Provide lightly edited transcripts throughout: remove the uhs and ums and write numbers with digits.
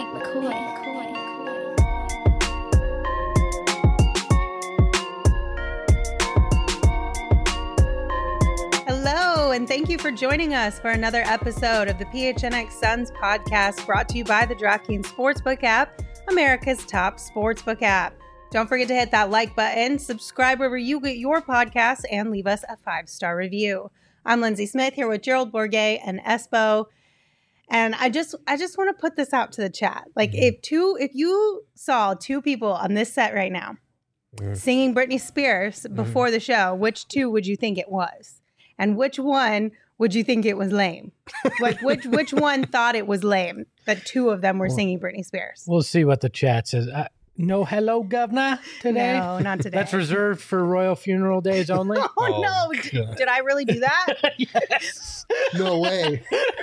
Hello, and thank you for joining us for another episode of the PHNX Suns podcast, brought to you by the DraftKings Sportsbook app, America's top sportsbook app. Don't forget to hit that like button, subscribe wherever you get your podcasts, and leave us a 5-star review. I'm Lindsay Smith here with Gerald Bourguet and Espo. And I just want to put this out to the chat. Like, if you saw two people on this set right now singing Britney Spears before the show, which two would you think it was? And which one would you think it was lame? Like, which one thought it was lame that two of them were singing Britney Spears? We'll see what the chat says. No hello, governor, today? No, not today. That's reserved for royal funeral days only? Oh no. Did I really do that? Yes. No way.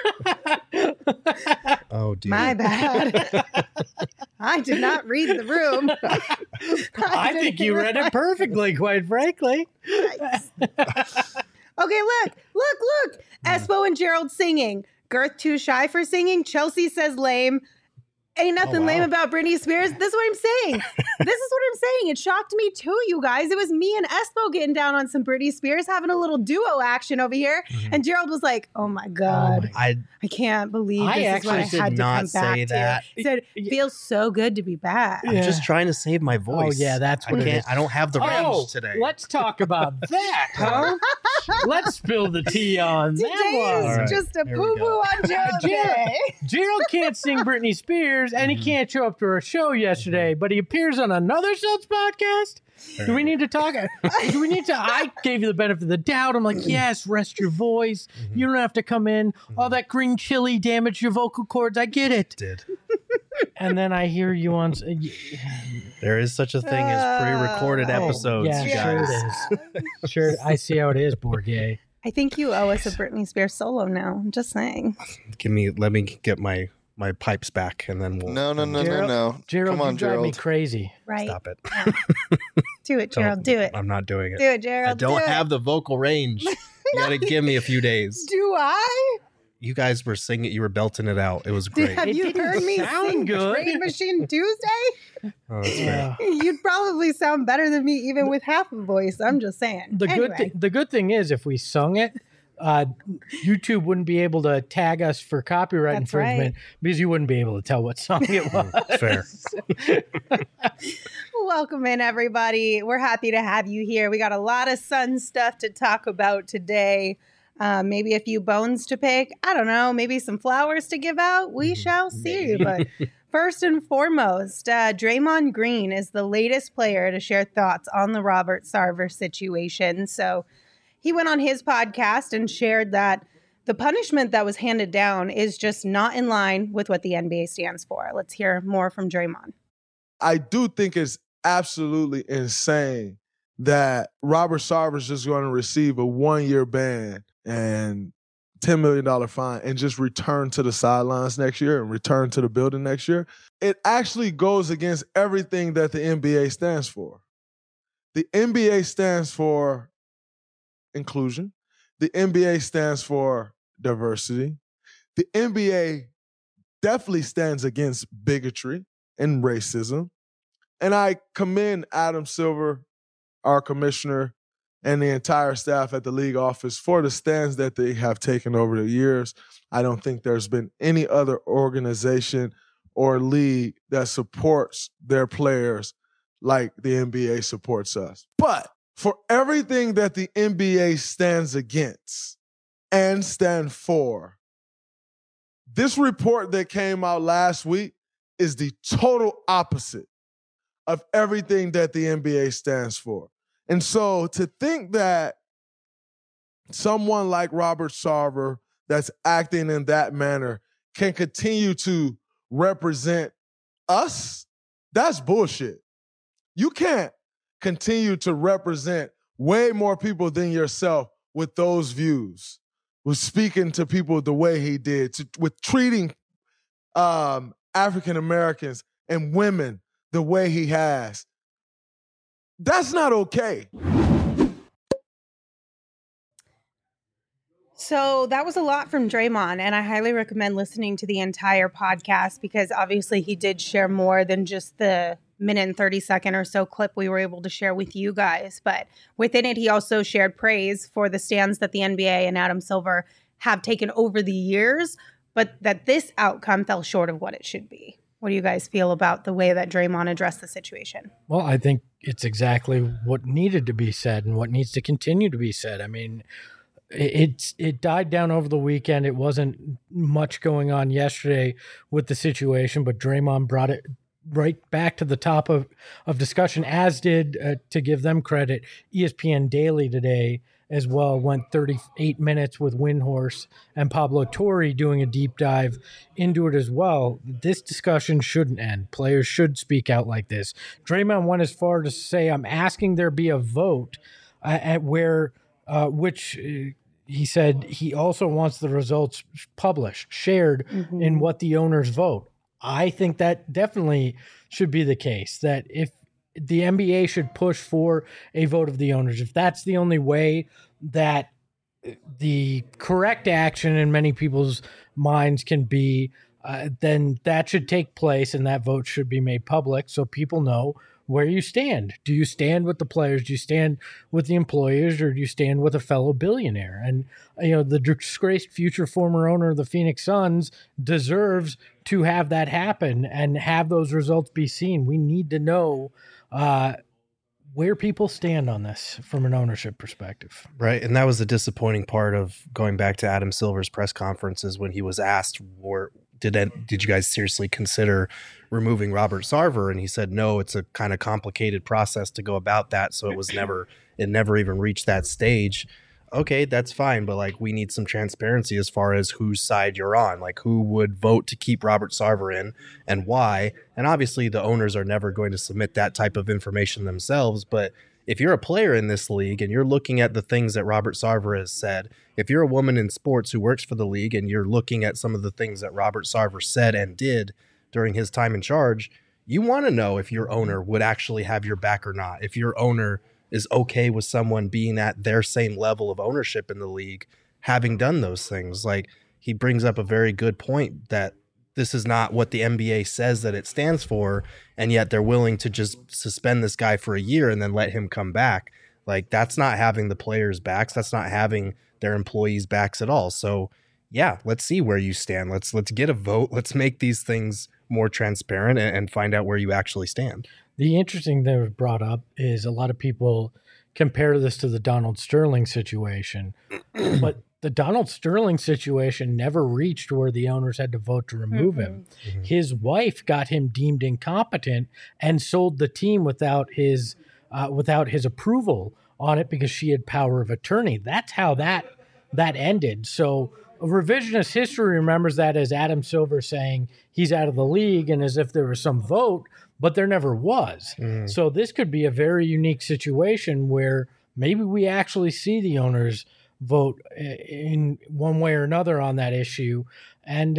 Oh, dear. My bad. I did not read the room. I think you read it perfectly, quite frankly. Okay, look. Espo and Gerald singing. Girth too shy for singing. Chelsea says lame. Ain't nothing lame about Britney Spears. This is what I'm saying. It shocked me too, you guys. It was me and Espo getting down on some Britney Spears, having a little duo action over here. And Gerald was like, oh my God. I can't believe this is what I had to come back to. He said, feels so good to be back. I'm just trying to save my voice. Oh, yeah, that's what it is. I don't have the range today. Let's talk about that, huh? Let's spill the tea on Today that one. is just a poo-poo on Gerald Day. Gerald can't sing Britney Spears, and he can't show up to our show yesterday, but he appears on another Suns podcast. Do we need to talk? I gave you the benefit of the doubt. I'm like, yes, rest your voice. You don't have to come in. All that green chili damaged your vocal cords. I get it. Did. And then I hear you on. There is such a thing as pre-recorded episodes, yeah, guys. sure it is. Sure, I see how it is, Bourguet. I think you owe us a Britney Spears solo now. I'm just saying. Let me get my pipes back, and then we'll. No. Gerald, Come on, you drive me Gerald. crazy. Right. Stop it. Do it, Gerald. Do it. I'm not doing it. Do it, Gerald. I don't have the vocal range. You gotta give me a few days. Do I? You guys were singing. You were belting it out. It was great. Have you heard me sound sing good. Trade Machine Tuesday? Oh, that's fair. You'd probably sound better than me even with half a voice. I'm just saying. The good thing is, if we sung it, YouTube wouldn't be able to tag us for copyright That's infringement because you wouldn't be able to tell what song it was. Fair. Welcome in, everybody. We're happy to have you here. We got a lot of Sun stuff to talk about today. Maybe a few bones to pick. I don't know. Maybe some flowers to give out. We shall see. But first and foremost, Draymond Green is the latest player to share thoughts on the Robert Sarver situation. So he went on his podcast and shared that the punishment that was handed down is just not in line with what the NBA stands for. Let's hear more from Draymond. I do think it's absolutely insane that Robert Sarver is just going to receive a 1-year ban and $10 million fine and just return to the sidelines next year and return to the building next year. It actually goes against everything that the NBA stands for. The NBA stands for inclusion. The NBA stands for diversity. The NBA definitely stands against bigotry and racism. And I commend Adam Silver, our commissioner, and the entire staff at the league office for the stands that they have taken over the years. I don't think there's been any other organization or league that supports their players like the NBA supports us. But for everything that the NBA stands against and stand for, this report that came out last week is the total opposite of everything that the NBA stands for. And so to think that someone like Robert Sarver that's acting in that manner can continue to represent us, that's bullshit. You can't continue to represent way more people than yourself with those views, with speaking to people the way he did, with treating African Americans and women the way he has. That's not okay. So that was a lot from Draymond, and I highly recommend listening to the entire podcast because obviously he did share more than just the minute and 30-second or so clip we were able to share with you guys. But within it, he also shared praise for the stands that the NBA and Adam Silver have taken over the years, but that this outcome fell short of what it should be. What do you guys feel about the way that Draymond addressed the situation? Well, I think it's exactly what needed to be said and what needs to continue to be said. I mean, it died down over the weekend. It wasn't much going on yesterday with the situation, but Draymond brought it right back to the top of discussion, as did, to give them credit, ESPN Daily today as well. Went 38 minutes with Windhorse and Pablo Torre doing a deep dive into it as well. This discussion shouldn't end. Players should speak out like this. Draymond went as far to say, I'm asking there be a vote at where, which he said he also wants the results published, shared in what the owners vote. I think that definitely should be the case, that if the NBA should push for a vote of the owners, if that's the only way that the correct action in many people's minds can be, then that should take place and that vote should be made public so people know where you stand. Do you stand with the players? Do you stand with the employers, or do you stand with a fellow billionaire? And, the disgraced future former owner of the Phoenix Suns deserves to have that happen and have those results be seen. We need to know where people stand on this from an ownership perspective. Right. And that was the disappointing part of going back to Adam Silver's press conferences when he was asked, did you guys seriously consider removing Robert Sarver? And he said, no, it's a kind of complicated process to go about that. So it never even reached that stage. Okay, that's fine. But we need some transparency as far as whose side you're on, who would vote to keep Robert Sarver in and why. And obviously the owners are never going to submit that type of information themselves. But if you're a player in this league and you're looking at the things that Robert Sarver has said, if you're a woman in sports who works for the league and you're looking at some of the things that Robert Sarver said and did during his time in charge, you want to know if your owner would actually have your back or not. If your owner is okay with someone being at their same level of ownership in the league, having done those things. He brings up a very good point that this is not what the NBA says that it stands for, and yet they're willing to just suspend this guy for a year and then let him come back. That's not having the players' backs. That's not having their employees' backs at all. So, yeah, let's see where you stand. Let's get a vote. Let's make these things more transparent and find out where you actually stand. The interesting thing that was brought up is a lot of people compare this to the Donald Sterling situation, but the Donald Sterling situation never reached where the owners had to vote to remove him. Mm-hmm. His wife got him deemed incompetent and sold the team without his approval on it because she had power of attorney. That's how that ended. So revisionist history remembers that as Adam Silver saying he's out of the league and as if there was some vote, but there never was. Mm. So this could be a very unique situation where maybe we actually see the owners vote in one way or another on that issue. And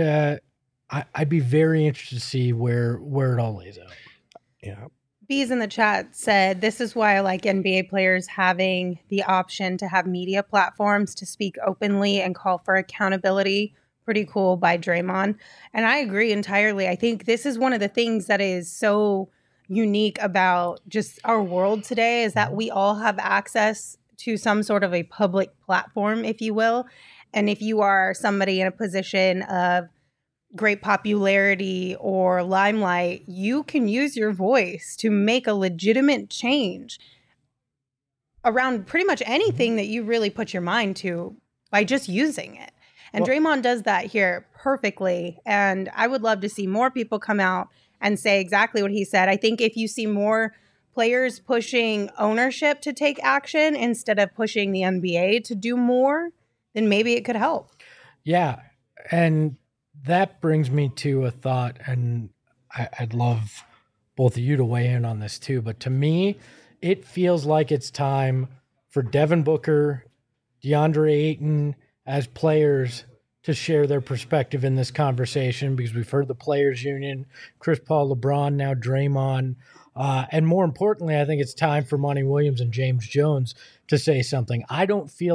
I'd be very interested to see where it all lays out. Yeah. Bees in the chat said, this is why I like NBA players having the option to have media platforms to speak openly and call for accountability. Pretty cool by Draymond. And I agree entirely. I think this is one of the things that is so unique about just our world today is that we all have access to some sort of a public platform, if you will. And if you are somebody in a position of great popularity or limelight, you can use your voice to make a legitimate change around pretty much anything that you really put your mind to by just using it. And Draymond does that here perfectly. And I would love to see more people come out and say exactly what he said. I think if you see more players pushing ownership to take action instead of pushing the NBA to do more, then maybe it could help. Yeah. And that brings me to a thought, and I'd love both of you to weigh in on this too. But to me, it feels like it's time for Devin Booker, DeAndre Ayton as players to share their perspective in this conversation, because we've heard the players union, Chris Paul, LeBron, now Draymond. And more importantly, I think it's time for Monty Williams and James Jones to say something. I don't feel like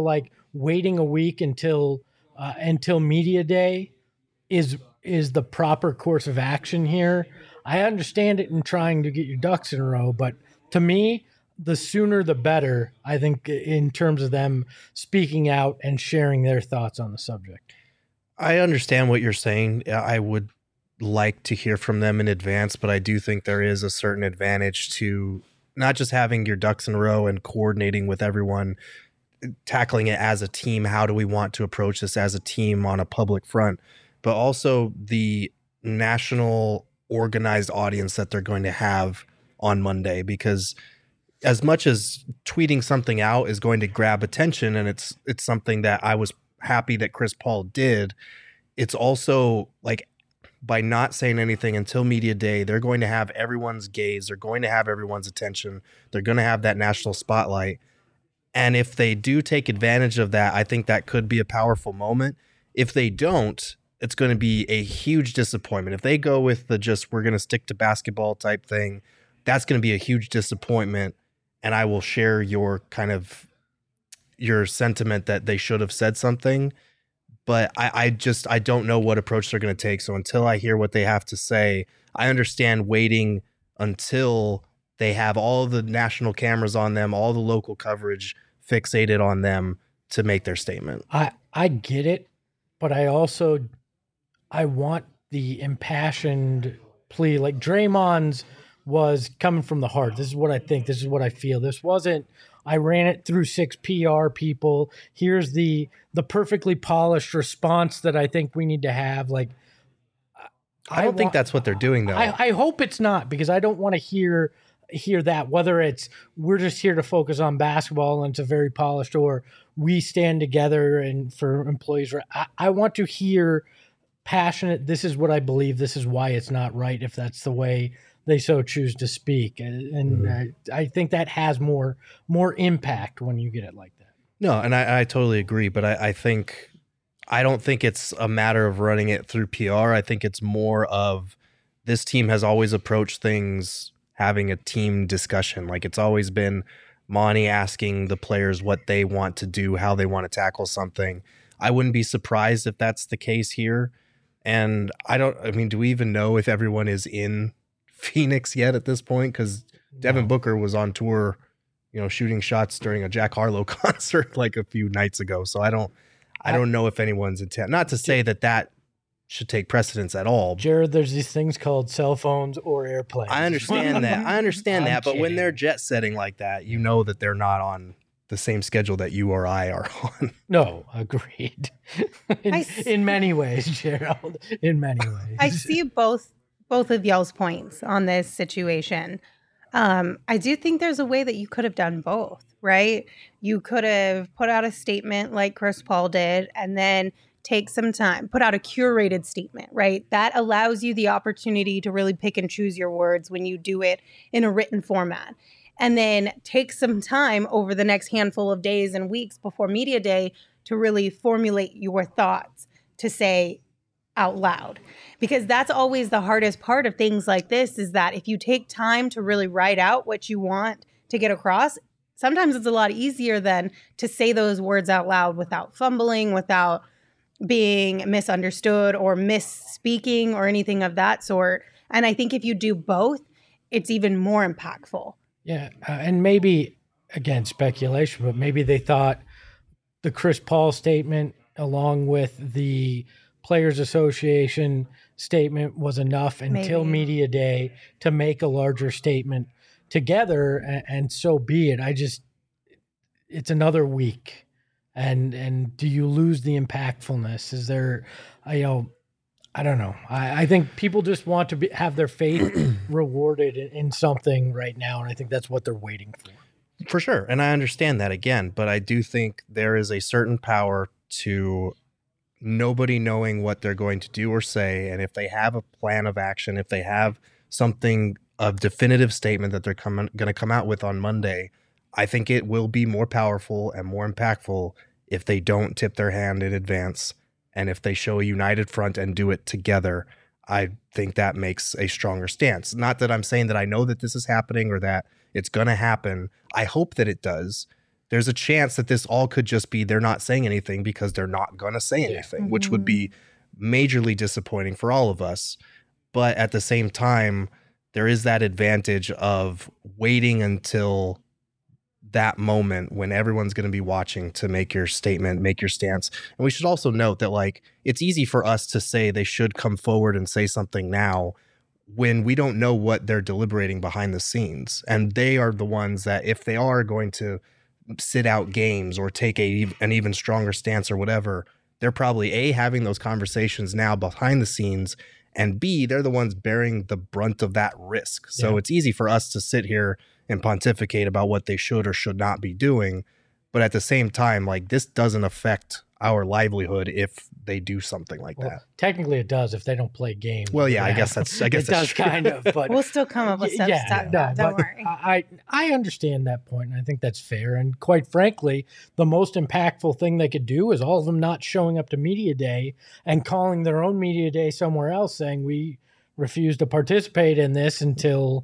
waiting a week until media day is the proper course of action here. I understand it in trying to get your ducks in a row, but to me, the sooner the better, I think, in terms of them speaking out and sharing their thoughts on the subject. I understand what you're saying. I would like to hear from them in advance, but I do think there is a certain advantage to not just having your ducks in a row and coordinating with everyone, tackling it as a team. How do we want to approach this as a team on a public front, but also the national organized audience that they're going to have on Monday, because as much as tweeting something out is going to grab attention, and it's something that I was happy that Chris Paul did, it's also like, by not saying anything until media day, they're going to have everyone's gaze, they're going to have everyone's attention, they're going to have that national spotlight. And if they do take advantage of that, I think that could be a powerful moment. If they don't, it's going to be a huge disappointment. If they go with the just, we're going to stick to basketball type thing, that's going to be a huge disappointment. And I will share your sentiment that they should have said something, but I don't know what approach they're going to take. So until I hear what they have to say, I understand waiting until they have all the national cameras on them, all the local coverage fixated on them to make their statement. I get it, but I want the impassioned plea. Like Draymond's was coming from the heart. This is what I think. This is what I feel. This wasn't, I ran it through 6 PR people. Here's the perfectly polished response that I think we need to have. Like, I don't think that's what they're doing, though. I hope it's not, because I don't want to hear that, whether it's we're just here to focus on basketball and it's a very polished, or we stand together and for employees. I want to hear passionate, this is what I believe, this is why it's not right, if that's the way they so choose to speak. And I think that has more impact when you get it like that. No, and I totally agree, but I don't think it's a matter of running it through PR. I think it's more of, this team has always approached things having a team discussion. Like, it's always been Monty asking the players what they want to do, how they want to tackle something. I wouldn't be surprised if that's the case here. And do we even know if everyone is in Phoenix yet at this point? Because Devin Booker was on tour, shooting shots during a Jack Harlow concert like a few nights ago. So I don't know if anyone's in town. Not to say that should take precedence at all. Jared, there's these things called cell phones or airplanes. I understand that. But when they're jet setting like that, you know that they're not on the same schedule that you or I are on. No, agreed. in many ways, Gerald. In many ways. I see both of y'all's points on this situation. I do think there's a way that you could have done both, right? You could have put out a statement like Chris Paul did, and then take some time, put out a curated statement, right? That allows you the opportunity to really pick and choose your words when you do it in a written format. And then take some time over the next handful of days and weeks before media day to really formulate your thoughts to say out loud. Because that's always the hardest part of things like this, is that if you take time to really write out what you want to get across, sometimes it's a lot easier than to say those words out loud without fumbling, without being misunderstood or misspeaking or anything of that sort. And I think if you do both, it's even more impactful. Yeah, and maybe, again, speculation, but maybe they thought the Chris Paul statement along with the Players Association statement was enough until media day to make a larger statement together, and so be it. It's another week. And do you lose the impactfulness? Is there, I don't know. I think people just want to have their faith rewarded in something right now, and I think that's what they're waiting for. For sure, and I understand that again, but I do think there is a certain power to nobody knowing what they're going to do or say, and if they have a plan of action, if they have something, a definitive statement that they're going to come out with on Monday, I think it will be more powerful and more impactful if they don't tip their hand in advance, and if they show a united front and do it together. I think that makes a stronger stance. Not that I'm saying that I know that this is happening or that it's going to happen. I hope that it does. there's a chance that this all could just be they're not saying anything because they're not going to say anything, which would be majorly disappointing for all of us. But at the same time, there is that advantage of waiting until that moment when everyone's going to be watching to make your statement, make your stance. And we should also note that, like, it's easy for us to say they should come forward and say something now when we don't know what they're deliberating behind the scenes. And they are the ones that, if they are going to sit out games or take an even stronger stance or whatever, they're probably A, having those conversations now behind the scenes, and B, they're the ones bearing the brunt of that risk. So it's easy for us to sit here and pontificate about what they should or should not be doing. But at the same time, like, this doesn't affect our livelihood if they do something like that. Technically it does if they don't play games. Well, yeah, I guess it does true. kind of, but we'll still come up with stuff. Don't worry. I understand that point, and I think that's fair. And quite frankly, the most impactful thing they could do is all of them not showing up to media day and calling their own media day somewhere else, saying we refuse to participate in this until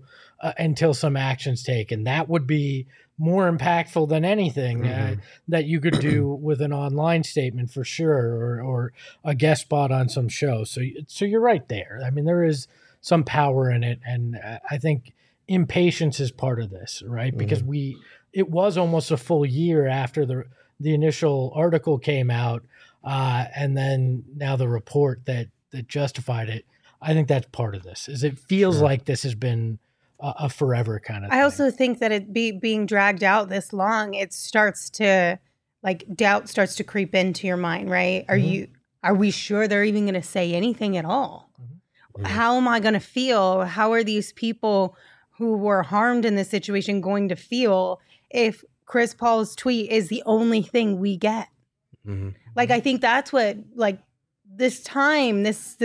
some action's taken. That would be more impactful than anything that you could do with an online statement, for sure, or a guest spot on some show. So you're right there. I mean, there is some power in it, and I think impatience is part of this, right? Because it was almost a full year after the initial article came out, and then now the report that justified it. I think that's part of this. Is it feels like this has been a forever kind of thing. I also think that it being dragged out this long, it starts to, like, doubt starts to creep into your mind, right? Are we sure they're even going to say anything at all? How am I going to feel? How are these people who were harmed in this situation going to feel if Chris Paul's tweet is the only thing we get? Like, I think that's what, like, this time, this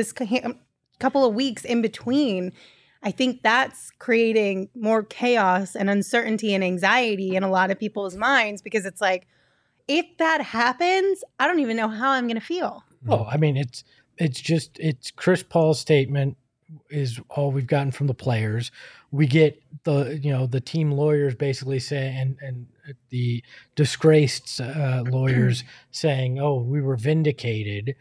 couple of weeks in between, I think that's creating more chaos and uncertainty and anxiety in a lot of people's minds, because it's like, if that happens, I don't even know how I'm going to feel. Oh, I mean, it's Chris Paul's statement is all we've gotten from the players. We get the team lawyers basically saying, and the disgraced lawyers saying, "Oh, we were vindicated."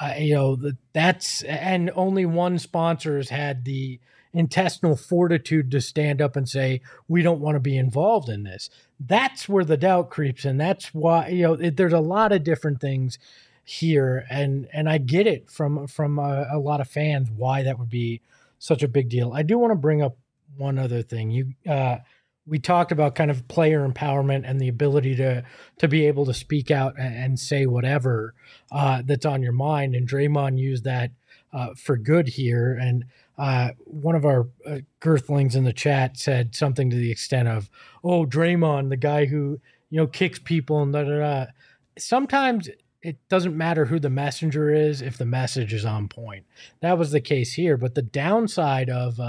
That's, and only one sponsor has had the intestinal fortitude to stand up and say, we don't want to be involved in this. That's where the doubt creeps in. That's why, there's a lot of different things here. And I get it from a lot of fans, why that would be such a big deal. I do want to bring up one other thing. We talked about kind of player empowerment and the ability to be able to speak out and say whatever that's on your mind. And Draymond used that for good here. And one of our girthlings in the chat said something to the extent of, "Oh, Draymond, the guy who kicks people and da da da." Sometimes it doesn't matter who the messenger is if the message is on point. That was the case here. But the downside of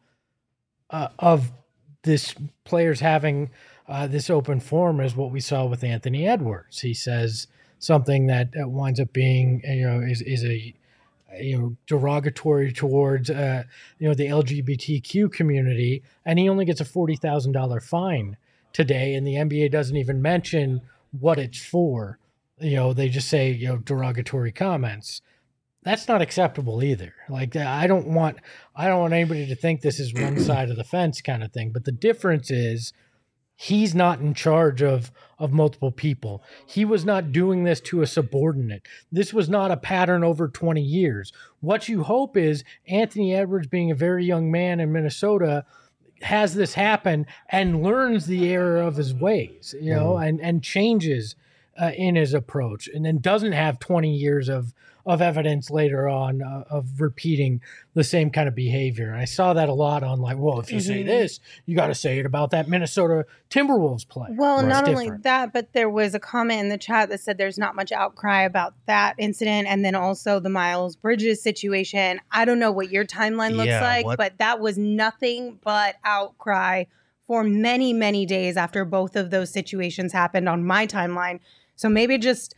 this players having this open forum is what we saw with Anthony Edwards. He says something that winds up being is a derogatory towards the LGBTQ community, and he only gets a $40,000 fine today, and the NBA doesn't even mention what it's for. They just say derogatory comments. That's not acceptable either. Like, I don't want anybody to think this is one side of the fence kind of thing. But the difference is he's not in charge of multiple people. He was not doing this to a subordinate. This was not a pattern over 20 years. What you hope is Anthony Edwards, being a very young man in Minnesota, has this happen and learns the error of his ways, and changes in his approach, and then doesn't have 20 years of evidence later on of repeating the same kind of behavior. And I saw that a lot on, like, well, if you say this, you got to say it about that Minnesota Timberwolves player. Well, not only that, but there was a comment in the chat that said there's not much outcry about that incident. And then also the Miles Bridges situation. I don't know what your timeline looks like, but that was nothing but outcry for many, many days after both of those situations happened on my timeline. So maybe just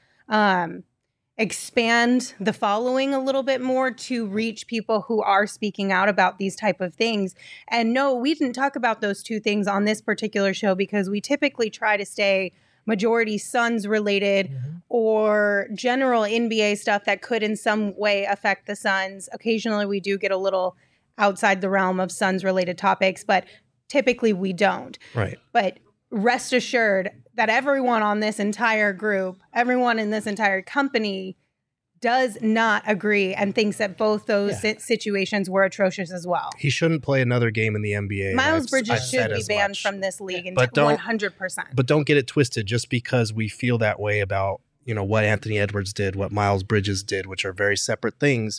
expand the following a little bit more to reach people who are speaking out about these type of things. And no, we didn't talk about those two things on this particular show because we typically try to stay majority Suns related or general NBA stuff that could in some way affect the Suns. Occasionally we do get a little outside the realm of Suns related topics, but typically we don't. Right. But rest assured that everyone on this entire group, everyone in this entire company does not agree and thinks that both those situations were atrocious as well. He shouldn't play another game in the NBA. Miles Bridges should be banned from this league, and 100%. But don't get it twisted. Just because we feel that way about, you know, what Anthony Edwards did, what Miles Bridges did, which are very separate things,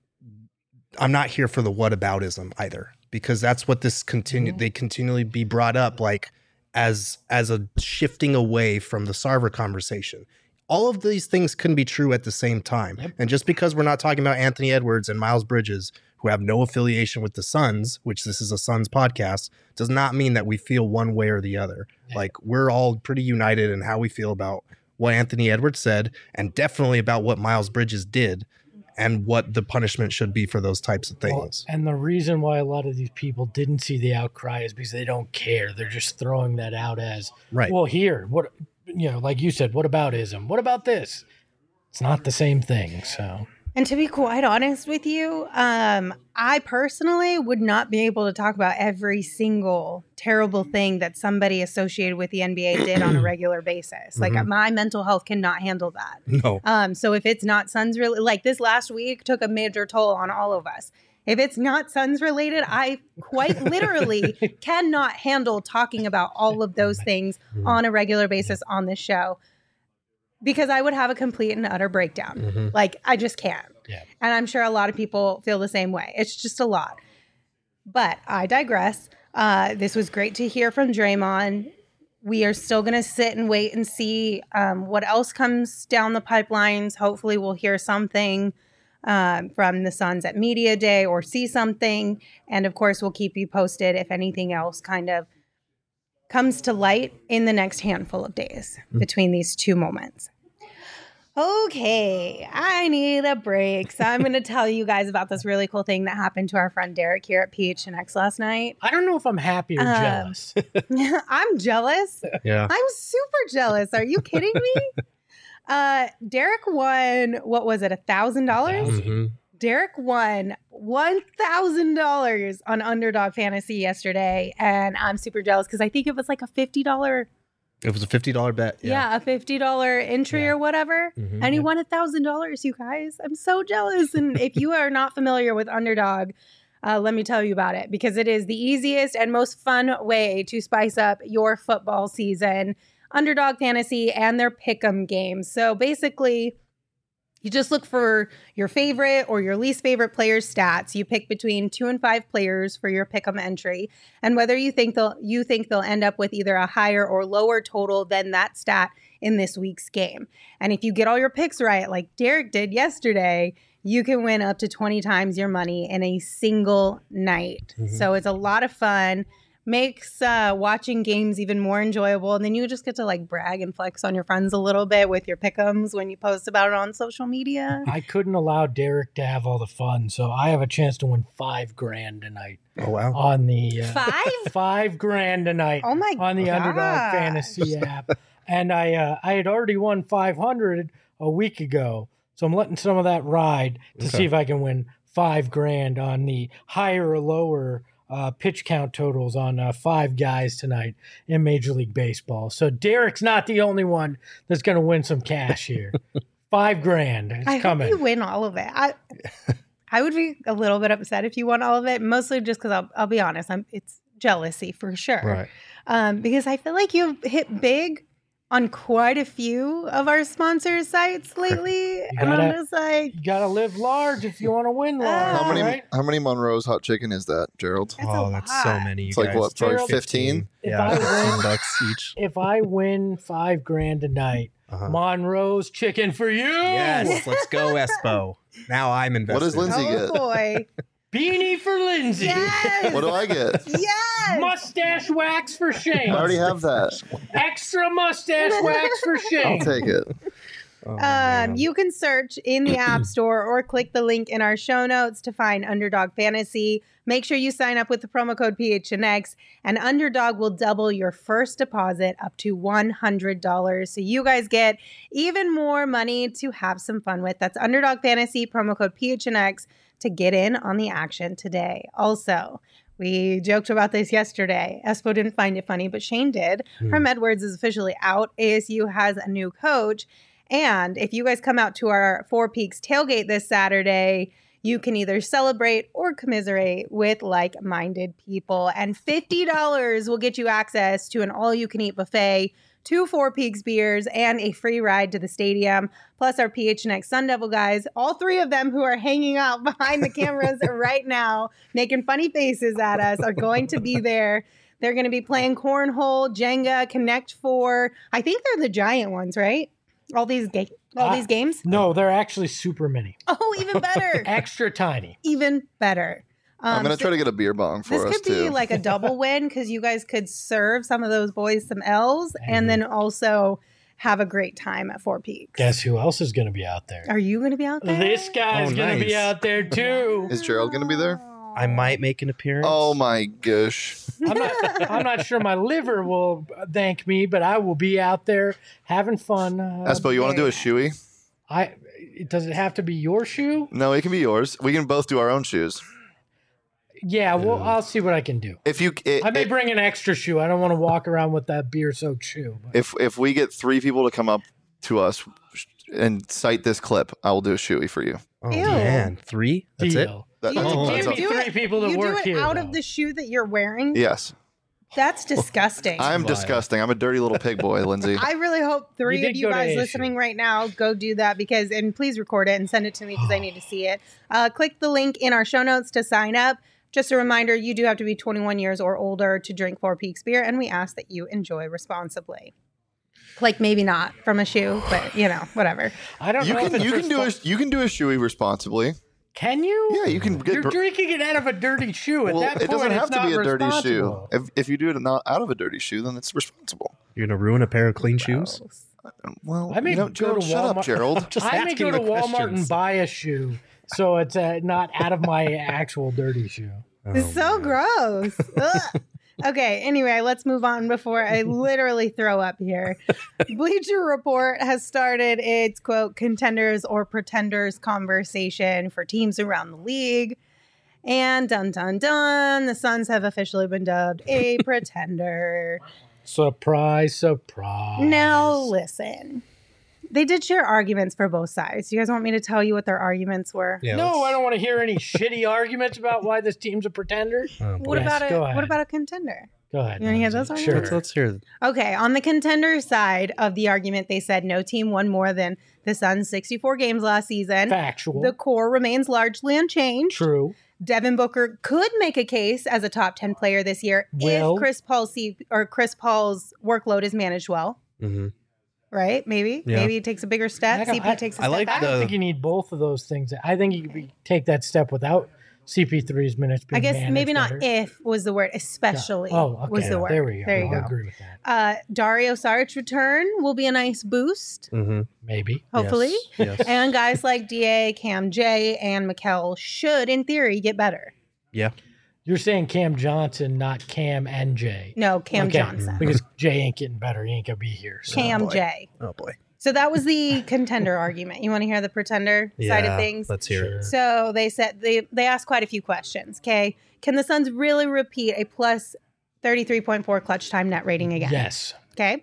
I'm not here for the whataboutism either, because that's what this they continually be brought up like as a shifting away from the Sarver conversation. All of these things can be true at the same time. Yep. And just because we're not talking about Anthony Edwards and Miles Bridges, who have no affiliation with the Suns, which this is a Suns podcast, does not mean that we feel one way or the other. Yep. Like, we're all pretty united in how we feel about what Anthony Edwards said, and definitely about what Miles Bridges did, and what the punishment should be for those types of things. Well, and the reason why a lot of these people didn't see the outcry is because they don't care. They're just throwing that out as, well, here, what, you know, like you said, what aboutism? What about this? It's not the same thing. So, and to be quite honest with you, I personally would not be able to talk about every single terrible thing that somebody associated with the NBA did on a regular basis. Like, my mental health cannot handle that. No. So if it's not Suns related, like this last week took a major toll on all of us. If it's not Suns related, I quite literally cannot handle talking about all of those things on a regular basis on this show, because I would have a complete and utter breakdown. Like, I just can't. Yeah. And I'm sure a lot of people feel the same way. It's just a lot. But I digress. This was great to hear from Draymond. We are still going to sit and wait and see what else comes down the pipelines. Hopefully we'll hear something from the Suns at Media Day or see something. And of course, we'll keep you posted if anything else kind of comes to light in the next handful of days between these two moments. Okay, I need a break. So I'm going to tell you guys about this really cool thing that happened to our friend Derek here at PHNX last night. I don't know if I'm happy or jealous. I'm jealous. Yeah. I'm super jealous. Are you kidding me? Derek won, what was it, $1,000? Derek won $1,000 on Underdog Fantasy yesterday, and I'm super jealous because I think it was like a $50. It was a $50 bet. Yeah, a $50 entry or whatever. And he won $1,000, you guys. I'm so jealous. And if you are not familiar with Underdog, let me tell you about it, because it is the easiest and most fun way to spice up your football season. Underdog Fantasy and their pick'em games. So basically, you just look for your favorite or your least favorite player's stats. You pick between 2 and 5 players for your pick'em entry, and whether you think they'll end up with either a higher or lower total than that stat in this week's game. And if you get all your picks right, like Derek did yesterday, you can win up to 20 times your money in a single night. So it's a lot of fun. Makes watching games even more enjoyable, and then you just get to like brag and flex on your friends a little bit with your pick'ems when you post about it on social media. I couldn't allow Derek to have all the fun, so I have a chance to win $5,000 tonight. Oh wow! On the $5,000 tonight. Oh my on the gosh. Underdog Fantasy app, and I had already won $500 a week ago, so I'm letting some of that ride to see if I can win $5,000 on the higher or lower pitch count totals on 5 guys tonight in Major League Baseball. So Derek's not the only one that's going to win some cash here. $5,000. It's coming. I hope you win all of it. I would be a little bit upset if you won all of it, mostly just because I'll be honest, it's jealousy for sure. Right. Because I feel like you've hit big on quite a few of our sponsor sites lately. And I'm just like, you gotta live large if you want to win large. How many Monroe's hot chicken is that, Gerald? That's so many. It's like what, probably 15? Yeah, $15 each. If I win $5,000 tonight, Monroe's chicken for you. Yes, let's go, Espo. Now I'm invested. What does Lindsay get? Oh boy. Beanie for Lindsay. Yes. What do I get? Yes. Mustache wax for Shane. I already have that. Extra mustache wax for Shane. I'll take it. man. You can search in the App Store or click the link in our show notes to find Underdog Fantasy. Make sure you sign up with the promo code PHNX, and Underdog will double your first deposit up to $100. So you guys get even more money to have some fun with. That's Underdog Fantasy, promo code PHNX to get in on the action today. Also, we joked about this yesterday. Espo didn't find it funny, but Shane did. Herm Edwards is officially out. ASU has a new coach. And if you guys come out to our Four Peaks tailgate this Saturday, you can either celebrate or commiserate with like-minded people. And $50 will get you access to an all-you-can-eat buffet, 2 Four Peaks beers, and a free ride to the stadium. Plus our PHNX Sun Devil guys, all 3 of them who are hanging out behind the cameras right now, making funny faces at us, are going to be there. They're going to be playing cornhole, Jenga, Connect 4. I think they're the giant ones, right? All these games? No, they're actually super mini. Oh, even better. Extra tiny. Even better. I'm going to try to get a beer bong for us, too. This could be like a double win because you guys could serve some of those boys some L's and then also have a great time at Four Peaks. Guess who else is going to be out there? Are you going to be out there? This guy's going to be nice. out there, too. Is Gerald going to be there? I might make an appearance. Oh, my gosh. I'm not sure my liver will thank me, but I will be out there having fun. Espo, you want to do a shoey? Does it have to be your shoe? No, it can be yours. We can both do our own shoes. Yeah, well, I'll see what I can do. I may bring an extra shoe. I don't want to walk around with that beer-soaked shoe. But. If we get 3 people to come up to us and cite this clip, I will do a shoey for you. Oh, Ew. man. 3? That's Deal. That- You that's- Oh, that's give me all- 3 people that you work do it here. out though. of the shoe that you're wearing? Yes. That's disgusting. I'm Vile. disgusting. I'm a dirty little pig boy, Lindsay. I really hope 3 You did of you go to guys ASU. listening right now go do that and please record it and send it to me because I need to see it. Click the link in our show notes to sign up. Just a reminder, you do have to be 21 years or older to drink Four Peaks beer, and we ask that you enjoy responsibly. Like maybe not from a shoe, but whatever. I don't You know if can it's you can do a shoey responsibly. Can you? Yeah, you can get. You're drinking it out of a dirty shoe. At Well, that point, it doesn't have it's to be not a dirty shoe. responsible. If you do it not out of a dirty shoe, then it's responsible. You're going to ruin a pair of clean shoes? Well, I may go Gerald, to shut up, Walmart. Gerald. Just I may asking go to the Walmart questions. and buy a shoe, so it's not out of my actual dirty shoe. It's so gross. Ugh. Okay, anyway, let's move on before I literally throw up here. Bleacher Report has started its, quote, contenders or pretenders conversation for teams around the league. And dun, dun, dun, the Suns have officially been dubbed a pretender. Surprise, surprise. Now, listen. They did share arguments for both sides. You guys want me to tell you what their arguments were? Yeah, No, let's- I don't want to hear any shitty arguments about why this team's a pretender. Oh, boy. What Yes, about go What ahead. about a contender? Go ahead. You wanna hear Lindsay. those Sure. arguments? Let's hear. Okay, on the contender side of the argument, they said no team won more than the Suns' 64 games last season. Factual. The core remains largely unchanged. True. Devin Booker could make a case as a top 10 player this year Will. if Chris Paul's workload is managed well. Mhm. Right? Maybe. Yeah. Maybe he takes a bigger step. I don't- CP takes a I step like back. I don't think you need both of those things. I think you could take that step without CP3's minutes being I guess managed maybe not better. if was the word, especially Oh, okay. was the word. There we go. There you I'll go. agree with that. Dario Saric's return will be a nice boost, Mhm. Maybe. hopefully. Yes. And guys like DA, Cam J, and Mikel should, in theory, get better. Yeah. You're saying Cam Johnson, not Cam and Jay. No, Cam Okay. Johnson. Because Jay ain't getting better. He ain't going to be here. So. Cam boy. J. Oh, boy. So that was the contender argument. You want to hear the pretender side of things? Let's hear Sure. it. So they said they asked quite a few questions. Okay, can the Suns really repeat a plus 33.4 clutch time net rating again? Yes. Okay,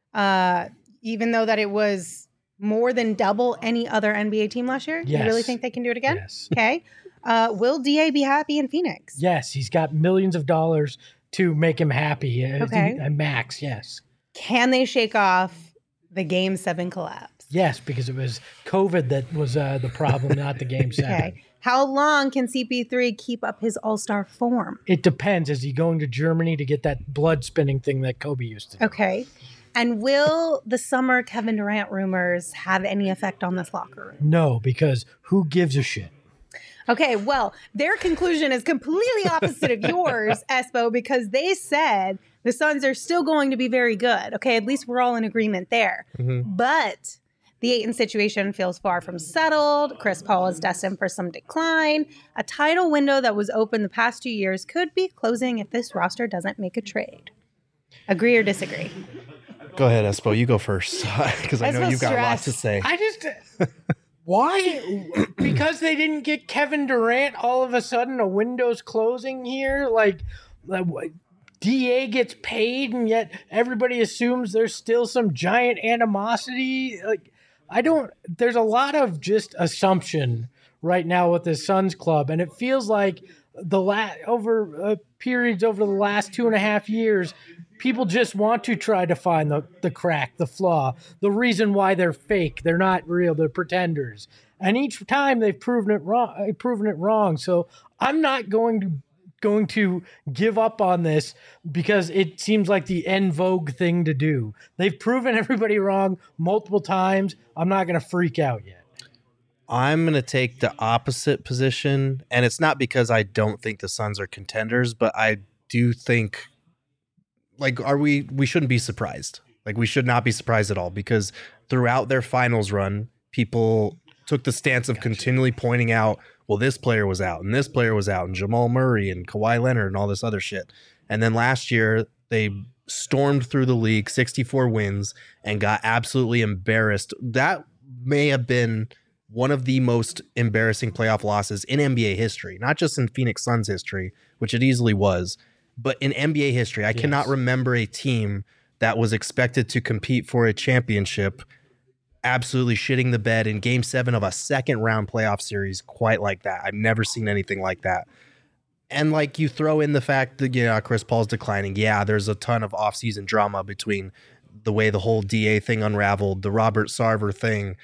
even though that it was more than double any other NBA team last year. You Yes. really think they can do it again? Yes. Okay. Will DA be happy in Phoenix? Yes. He's got millions of dollars to make him happy. Okay. Max, yes. Can they shake off the Game 7 collapse? Yes, because it was COVID that was the problem, not the Game 7. Okay. How long can CP3 keep up his all-star form? It depends. Is he going to Germany to get that blood spinning thing that Kobe used to do? Okay. And will the summer Kevin Durant rumors have any effect on this locker room? No, because who gives a shit? Okay, well, their conclusion is completely opposite of yours, Espo, because they said the Suns are still going to be very good. Okay, at least we're all in agreement there. Mhm. But The Ayton situation feels far from settled. Chris Paul is destined for some decline. A title window that was open the past 2 years could be closing if this roster doesn't make a trade. Agree or disagree? Go ahead, Espo. You go first because I know Espo's you've got lots stressed. to say. I just why? Because they didn't get Kevin Durant, all of a sudden a window's closing here. Like DA gets paid, and yet everybody assumes there's still some giant animosity. Like there's a lot of just assumption right now with the Suns club, and it feels like periods over the last 2.5 years, people just want to try to find the crack, the flaw, the reason why they're fake. They're not real. They're pretenders. And each time they've proven it wrong. So I'm not going to give up on this because it seems like the en vogue thing to do. They've proven everybody wrong multiple times. I'm not going to freak out yet. I'm going to take the opposite position, and it's not because I don't think the Suns are contenders, but I do think, like, we shouldn't be surprised. Like, we should not be surprised at all, because throughout their finals run, people took the stance of continually pointing out, well, this player was out, and this player was out, and Jamal Murray and Kawhi Leonard and all this other shit. And then last year, they stormed through the league, 64 wins, and got absolutely embarrassed. That may have been one of the most embarrassing playoff losses in NBA history, not just in Phoenix Suns history, which it easily was, but in NBA history. I cannot remember a team that was expected to compete for a championship absolutely shitting the bed in Game 7 of a second-round playoff series quite like that. I've never seen anything like that. And, like, you throw in the fact that, Chris Paul's declining. Yeah, there's a ton of offseason drama between the way the whole DA thing unraveled, the Robert Sarver thing,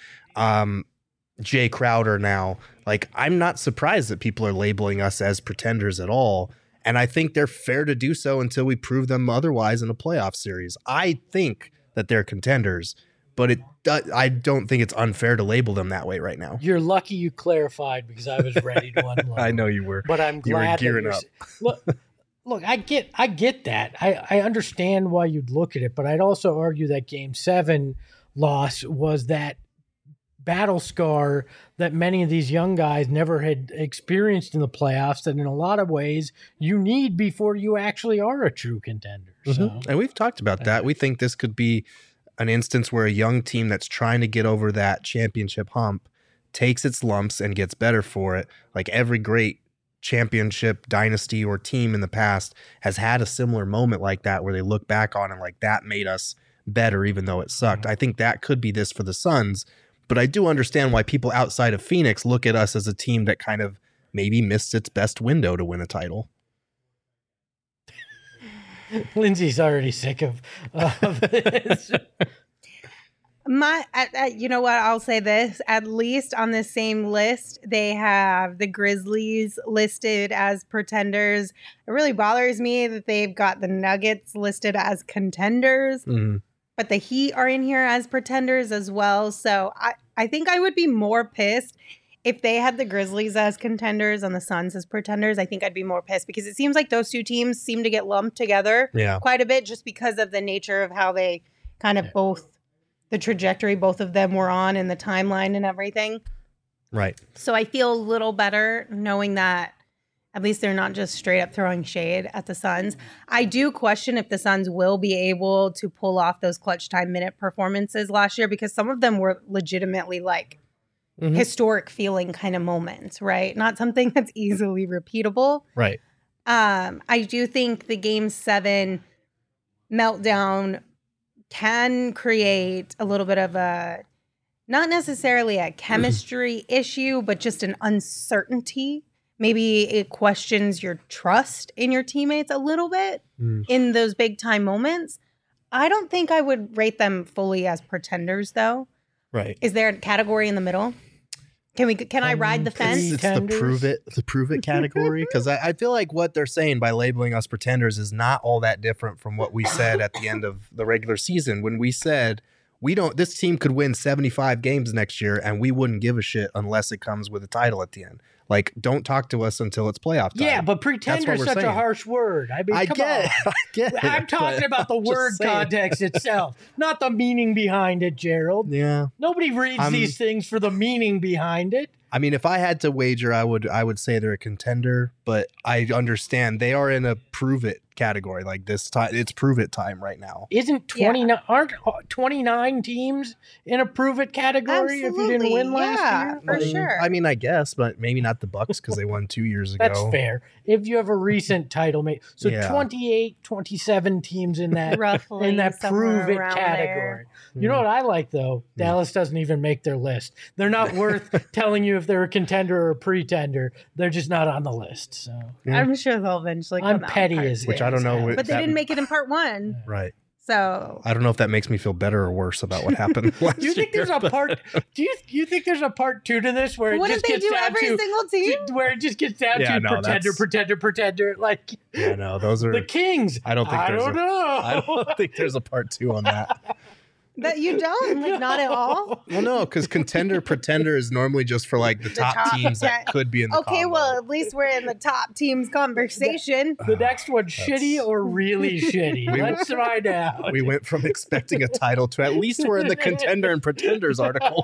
Jay Crowder now. Like, I'm not surprised that people are labeling us as pretenders at all. And I think they're fair to do so until we prove them otherwise in a playoff series. I think that they're contenders, but I don't think it's unfair to label them that way right now. You're lucky you clarified, because I was ready to unload. I know you were. But I'm glad you were gearing up. Look, I get that. I understand why you'd look at it, but I'd also argue that Game 7 loss was that battle scar that many of these young guys never had experienced in the playoffs, that in a lot of ways you need before you actually are a true contender. So, and we've talked about that. We think this could be an instance where a young team that's trying to get over that championship hump takes its lumps and gets better for it. Like every great championship dynasty or team in the past has had a similar moment like that, where they look back on it like, that made us better even though it sucked. I think that could be this for the Suns. But I do understand why people outside of Phoenix look at us as a team that kind of maybe missed its best window to win a title. Lindsay's already sick of this. You know what? I'll say this. At least on the same list, they have the Grizzlies listed as pretenders. It really bothers me that they've got the Nuggets listed as contenders. Mm-hmm. But the Heat are in here as pretenders as well. So I think I would be more pissed if they had the Grizzlies as contenders and the Suns as pretenders. I think I'd be more pissed, because it seems like those two teams seem to get lumped together quite a bit, just because of the nature of how they kind of the trajectory both of them were on and the timeline and everything. Right. So I feel a little better knowing that at least they're not just straight up throwing shade at the Suns. I do question if the Suns will be able to pull off those clutch time minute performances last year, because some of them were legitimately like historic feeling kind of moments, right? Not something that's easily repeatable. Right. I do think the Game 7 meltdown can create a little bit of a, not necessarily a chemistry issue, but just an uncertainty. Maybe it questions your trust in your teammates a little bit in those big time moments. I don't think I would rate them fully as pretenders, though. Right. Is there a category in the middle? Can I ride the fence? It's the prove it category, because I feel like what they're saying by labeling us pretenders is not all that different from what we said at the end of the regular season, when we said this team could win 75 games next year and we wouldn't give a shit unless it comes with a title at the end. Like, don't talk to us until it's playoff time. Yeah, but pretender is we're such a saying. harsh word. I mean, I come get on. it. I get it. I'm talking but about the I'm just word saying. context itself, not the meaning behind it, Gerald. Yeah. Nobody reads these things for the meaning behind it. I mean, if I had to wager, I would say they're a contender, but I understand they are in a prove it category. Like this time, it's prove it time right now. Isn't 29 aren't 29 teams in a prove it category if you didn't win last year? For sure. I mean, I guess, but maybe not the Bucks because they won 2 years ago. That's fair. If you have a recent title mate. So Yeah. 28, 27 teams in that Roughly in that somewhere prove it around category. there. You know what I like though? Dallas doesn't even make their list. They're not worth telling you if they're a contender or a pretender. They're just not on the list. So Yeah. I'm sure they'll eventually come I'm out petty in part as Which two. I don't know. But But they didn't make it in part 1. Right. So I don't know if that makes me feel better or worse about what happened last do you think year, there's a but- part? Do you think there's a part 2 to this where it wouldn't just they gets do down every to single team? where it just gets down Yeah, to no, pretender, like Yeah, no, those are. the Kings? I don't think I there's don't a- know. I don't think there's a part 2 on that. That you don't? Like, not at all? Well, no, because contender pretender is normally just for like the top top, teams that yeah. could be in the Okay, combo. well, at least we're in the top teams conversation. The next one, shitty or really shitty? Let's find out. We went from expecting a title to at least we're in the contender and pretenders article.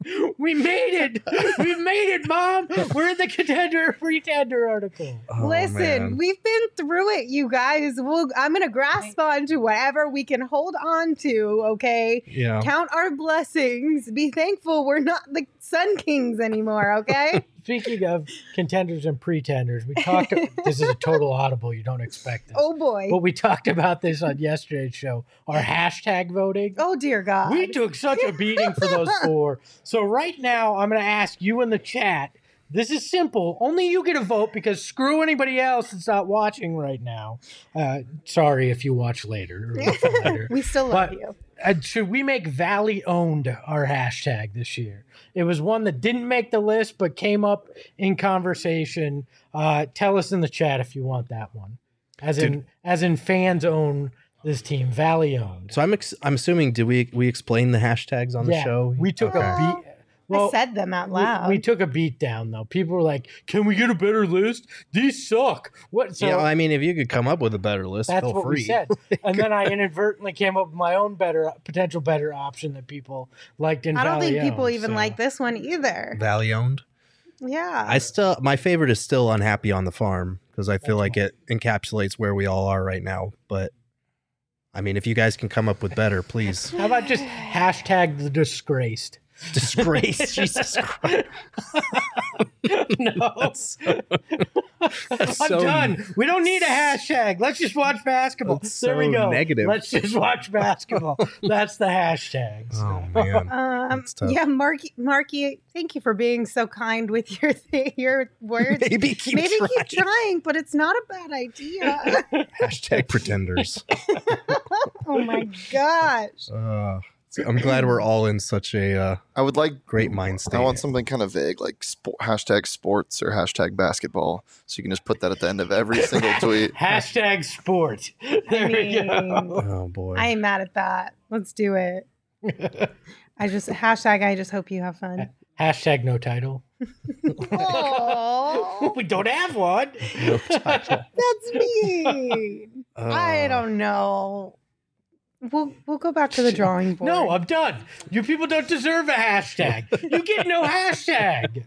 We made it. We made it, Mom. We're in the contender pretender article. Oh, Listen, man. we've been through it, you guys. I'm going to grasp on to whatever we can hold on to, okay? Yeah. Count our blessings. Be thankful we're not the Sun Kings anymore, okay? Speaking of contenders and pretenders, we talked. This is a total audible. You don't expect this. Oh, boy. But we talked about this on yesterday's show. Our hashtag voting. Oh, dear God. We took such a beating for those 4. So right now, I'm going to ask you in the chat. This is simple. Only you get a vote because screw anybody else that's not watching right now. Sorry if you watch later. Or listen later. We still love But- you. Should we make Valley owned our hashtag this year? It was one that didn't make the list but came up in conversation. Tell us in the chat if you want that one. As in fans own this team, Valley owned. So I'm assuming did we explain the hashtags on the show? We took a Well, beat. Well, I said them out loud. we took a beat down though. People were like, "Can we get a better list? These suck." What? So yeah, well, I mean, if you could come up with a better list, that's feel what free. we said. And then I inadvertently came up with my own potential better option that people liked in I don't think Valley people owned, even so. like this one either. Valley owned. Yeah. My favorite is still Unhappy on the Farm because I feel like it encapsulates where we all are right now. But I mean, if you guys can come up with better, please. How about just hashtag the disgraced? Disgrace, Jesus Christ. No. I'm so- done. We don't need a hashtag. Let's just watch basketball. That's There we so go. negative. Let's just watch basketball. That's the hashtag. Oh man. That's tough. Yeah, Marky, thank you for being so kind with your words. Maybe keep trying, but it's not a bad idea. Hashtag pretenders. Oh my gosh. I'm glad we're all in such a I would like. great mind state. I want something kind of vague, like hashtag sports or hashtag basketball, so you can just put that at the end of every single tweet. Hashtag sport. There we go. Oh boy. I ain't mad at that. Let's do it. I just hope you have fun. Hashtag no title. Oh, We don't have one. that's mean. I don't know. We'll go back to the drawing board. No, I'm done. You people don't deserve a hashtag. You get no hashtag.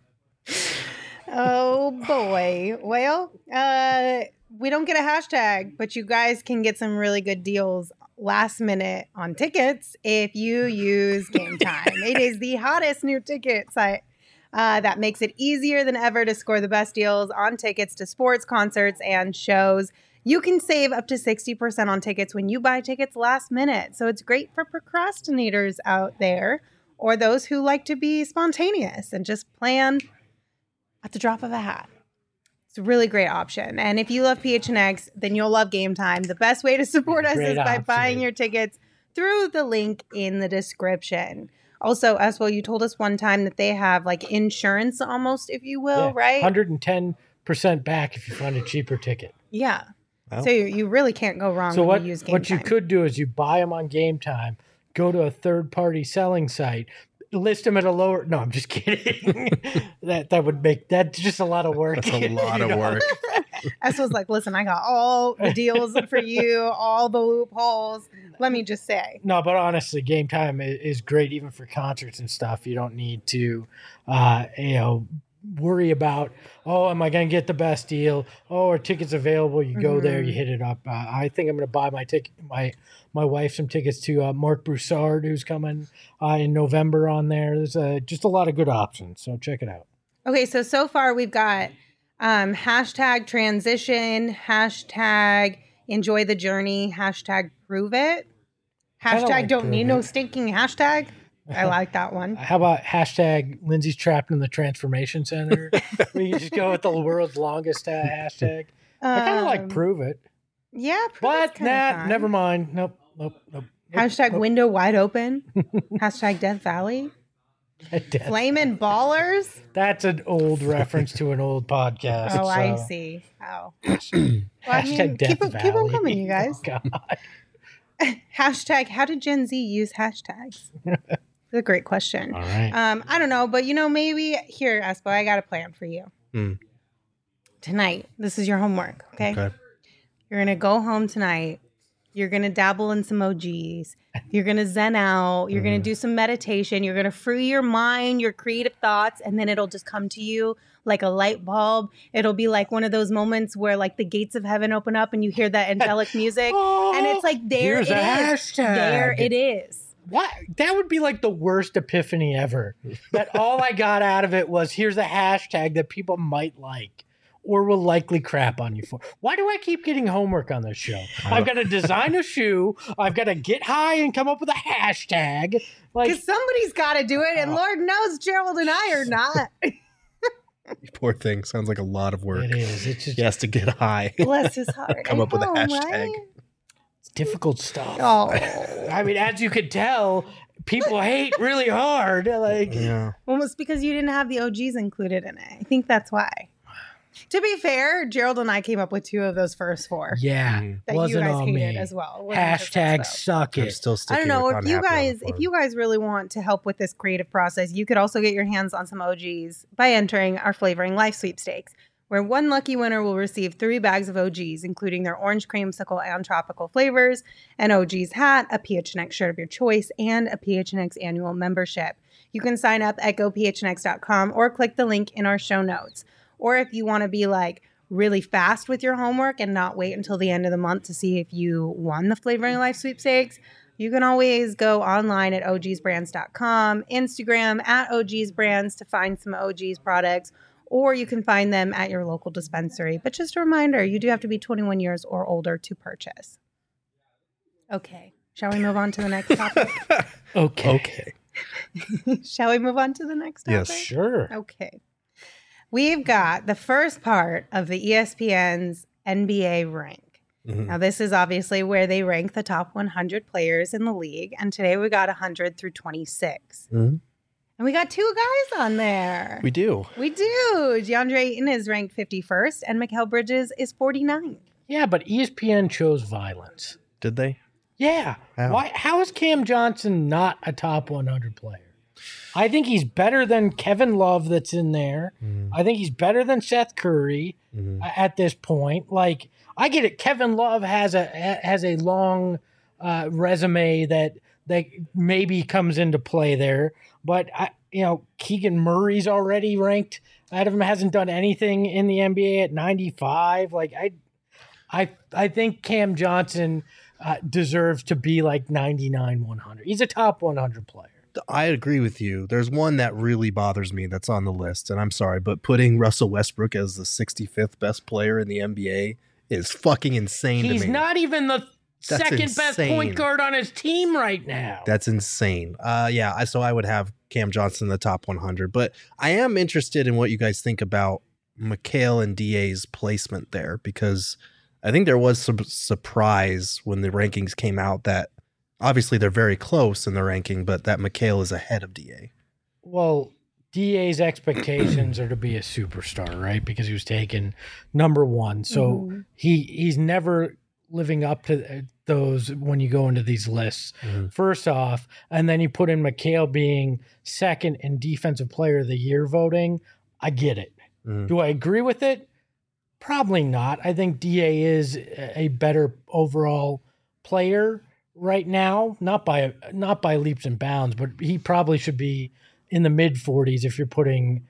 Oh boy. Well, we don't get a hashtag, but you guys can get some really good deals last minute on tickets if you use Game Time. It is the hottest new ticket site that makes it easier than ever to score the best deals on tickets to sports, concerts, and shows. You can save up to 60% on tickets when you buy tickets last minute. So it's great for procrastinators out there or those who like to be spontaneous and just plan at the drop of a hat. It's a really great option. And if you love PHNX, then you'll love Game Time. The best way to support us Great is by option. buying your tickets through the link in the description. Also, as well, you told us one time that they have like insurance almost, if you will, Yeah, right? 110% back if you find a cheaper ticket. Yeah. Wow. So you really can't go wrong So when you use Game what Time. you could do is you buy them on Game Time, go to a third-party selling site, list them at a lower. No, I'm just kidding. that would make that's just a lot of work. That's a lot of work. S was like, listen, I got all the deals for you, all the loopholes. Let me just say. No, but honestly, Game Time is great even for concerts and stuff. You don't need to, worry about, am I going to get the best deal? Are tickets available? You go there, you hit it up. I think I'm going to buy my wife some tickets to Mark Broussard, who's coming in November on there. There's just a lot of good options, so check it out. Okay, so far we've got hashtag transition, hashtag enjoy the journey, hashtag prove it, hashtag like don't need prove no it. stinking hashtag. I like that one. How about hashtag Lindsay's trapped in the transformation center? We can just go with the world's longest hashtag. I kind of like prove it. Yeah, prove it's But kinda fun. never mind. Nope. Hashtag window wide open. Hashtag Death Valley. Flamin' Ballers. That's an old reference to an old podcast. Oh, I so. see. Oh. Hashtag Death keep Valley. on coming, you guys. Oh, God. Hashtag how did Gen Z use hashtags? That's a great question. All right. I don't know, but maybe here, Espo, I got a plan for you. Tonight, this is your homework, okay? You're going to go home tonight. You're going to dabble in some OGs. You're going to zen out. You're going to do some meditation. You're going to free your mind, your creative thoughts, and then it'll just come to you like a light bulb. It'll be like one of those moments where like the gates of heaven open up and you hear that angelic music. And it's like, there Here's it a is. hashtag. There it is. What? That would be like the worst epiphany ever. That all I got out of it was here's a hashtag that people might like or will likely crap on you for. Why do I keep getting homework on this show? I've got to design a shoe. I've got to get high and come up with a hashtag. Like, Because somebody's got to do it, and Lord knows Gerald and I are not. Poor thing. Sounds like a lot of work. it is. It's just He has to get high. Bless his heart. Come I up with a know, hashtag. right? difficult stuff. Oh, I mean, as you could tell, people hate really hard. Like, Yeah. almost because you didn't have the OGs included in it. I think that's why. To be fair, Gerald and I came up with 2 of those first 4 yeah, that wasn't you guys on hated me. as well. It wasn't just us, Hashtag though. suck I'm it. still I sticking don't know with if you unhappy on the guys floor. if you guys really want to help with this creative process, you could also get your hands on some OGs by entering our Flavoring Life sweepstakes, where one lucky winner will receive 3 bags of OGs, including their orange creamsicle and tropical flavors, an OG's hat, a PHNX shirt of your choice, and a PHNX annual membership. You can sign up at gophnx.com or click the link in our show notes. Or if you want to be like really fast with your homework and not wait until the end of the month to see if you won the Flavoring Life sweepstakes, you can always go online at ogsbrands.com, Instagram at ogsbrands to find some OGs products, or you can find them at your local dispensary. But just a reminder, you do have to be 21 years or older to purchase. Okay. Shall we move on to the next topic? Okay. Shall we move on to the next topic? Yes. Sure. Okay. We've got the first part of the ESPN's NBA rank. Mhm. Now, this is obviously where they rank the top 100 players in the league. And today we got 100 through 26. Mhm. And we got 2 guys on there. We do. We do. DeAndre Ayton is ranked 51st and Mikal Bridges is 49th. Yeah, but ESPN chose violence. Did they? Yeah. How? Why? How is Cam Johnson not a top 100 player? I think he's better than Kevin Love that's in there. I think he's better than Seth Curry at this point. Like, I get it. Kevin Love has a long resume that maybe comes into play there. But, Keegan Murray's already ranked out of him, hasn't done anything in the NBA at 95. Like, I think Cam Johnson deserves to be like 99, 100. He's a top 100 player. I agree with you. There's one that really bothers me that's on the list, and I'm sorry, but putting Russell Westbrook as the 65th best player in the NBA is fucking insane to me. He's not even the That's second best insane. point guard on his team right now. That's insane. So I would have Cam Johnson in the top 100, but I am interested in what you guys think about Mikal and DA's placement there, because I think there was some surprise when the rankings came out that obviously they're very close in the ranking, but that Mikal is ahead of DA. Well, DA's expectations are to be a superstar, right? Because he was taken number 1. So he's never living up to those when you go into these lists. First off, and then you put in McHale being second in Defensive Player of the Year voting. I get it. Do I agree with it? Probably not. I think DA is a better overall player right now, not by leaps and bounds, but he probably should be in the mid 40s if you're putting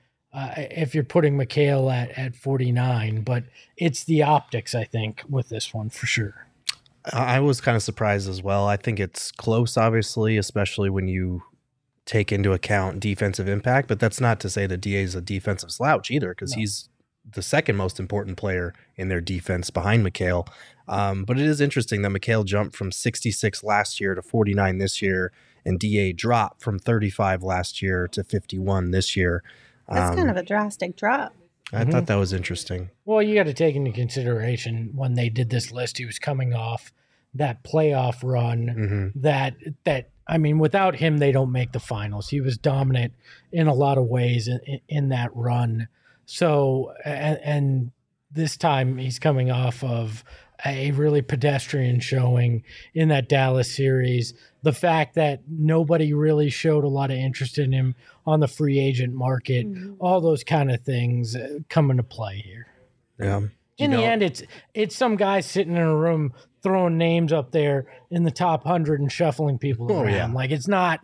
McHale at 49. But it's the optics, I think, with this one for sure. I was kind of surprised as well. I think it's close, obviously, especially when you take into account defensive impact. But that's not to say that DA is a defensive slouch either, because he's the second most important player in their defense behind McHale. But it is interesting that McHale jumped from 66 last year to 49 this year, and DA dropped from 35 last year to 51 this year. That's kind of a drastic drop. I thought that was interesting. Well, you got to take into consideration when they did this list, he was coming off that playoff run that I mean, without him, they don't make the finals. He was dominant in a lot of ways in that run. So, and this time he's coming off of a really pedestrian showing in that Dallas series. The fact that nobody really showed a lot of interest in him on the free agent market, all those kind of things come into play here. Yeah. In the end, it's some guy sitting in a room throwing names up there in the top 100 and shuffling people around. Yeah. Like it's not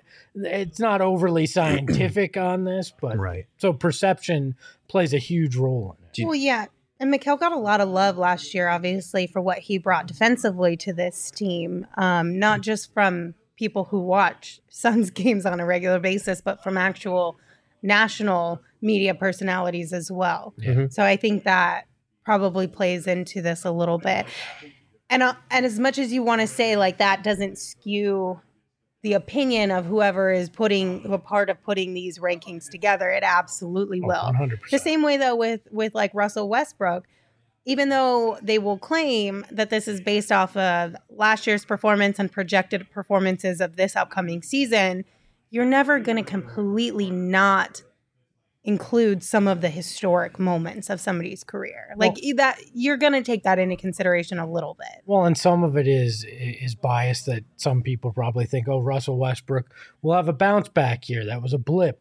overly scientific on this, but so perception plays a huge role in it. Well, yeah. And McHale got a lot of love last year, obviously, for what he brought defensively to this team, not just from people who watch Suns games on a regular basis, but from actual national media personalities as well. So I think that probably plays into this a little bit. And as much as you want to say like that doesn't skew the opinion of whoever is a part of putting these rankings together, it absolutely will. 100%. The same way though with like Russell Westbrook, even though they will claim that this is based off of last year's performance and projected performances of this upcoming season, you're never going to completely not include some of the historic moments of somebody's career. Like that, you're going to take that into consideration a little bit. Well, and some of it is bias that some people probably think, oh, Russell Westbrook will have a bounce back year. That was a blip,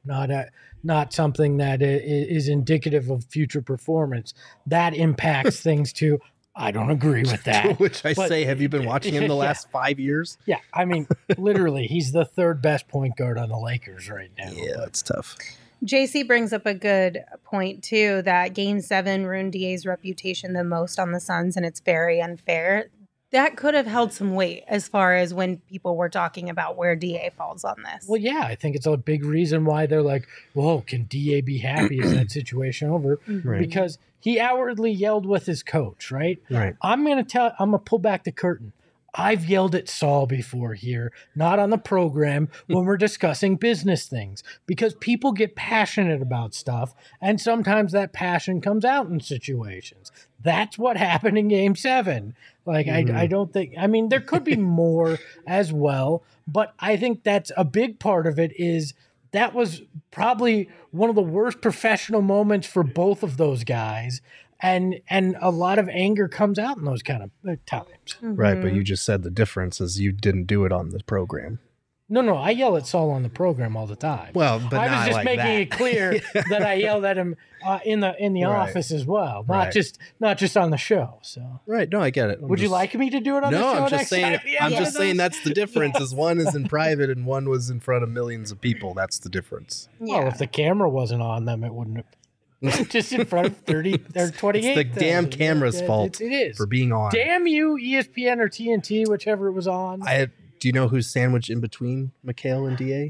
not something that is indicative of future performance. That impacts things too. I don't agree with that. Which say, have you been watching him the last 5 years? Yeah, I mean, literally, he's the third best point guard on the Lakers right now. Yeah, that's tough. JC brings up a good point, too, that Game 7 ruined DA's reputation the most on the Suns, and it's very unfair. That could have held some weight as far as when people were talking about where DA falls on this. Well, yeah, I think it's a big reason why they're like, whoa, can DA be happy? Is that situation over? Right. Because he outwardly yelled with his coach, right? Right. I'm going to pull back the curtain. I've yelled at Saul before here, not on the program, when we're discussing business things, because people get passionate about stuff, and sometimes that passion comes out in situations. That's what happened in Game 7. Like, I don't think, I mean, there could be more as well, but I think that's a big part of it is that was probably one of the worst professional moments for both of those guys. And a lot of anger comes out in those kind of times. Right, but you just said the difference is you didn't do it on the program. No, I yell at Saul on the program all the time. Well, but I was not just like making that. it clear that I yelled at him in the office as well, not just on the show. So right, no, I get it. Would you like me to do it on the show? No, I'm just next saying. time? I'm just saying that's the difference. Is one is in private and one was in front of millions of people. That's the difference. Well, if the camera wasn't on them, it wouldn't have. Just in front of 30 or 28. It's the damn camera's fault. It is for being on. Damn you, ESPN or TNT, whichever it was on. Do you know who's sandwiched in between McHale and DA?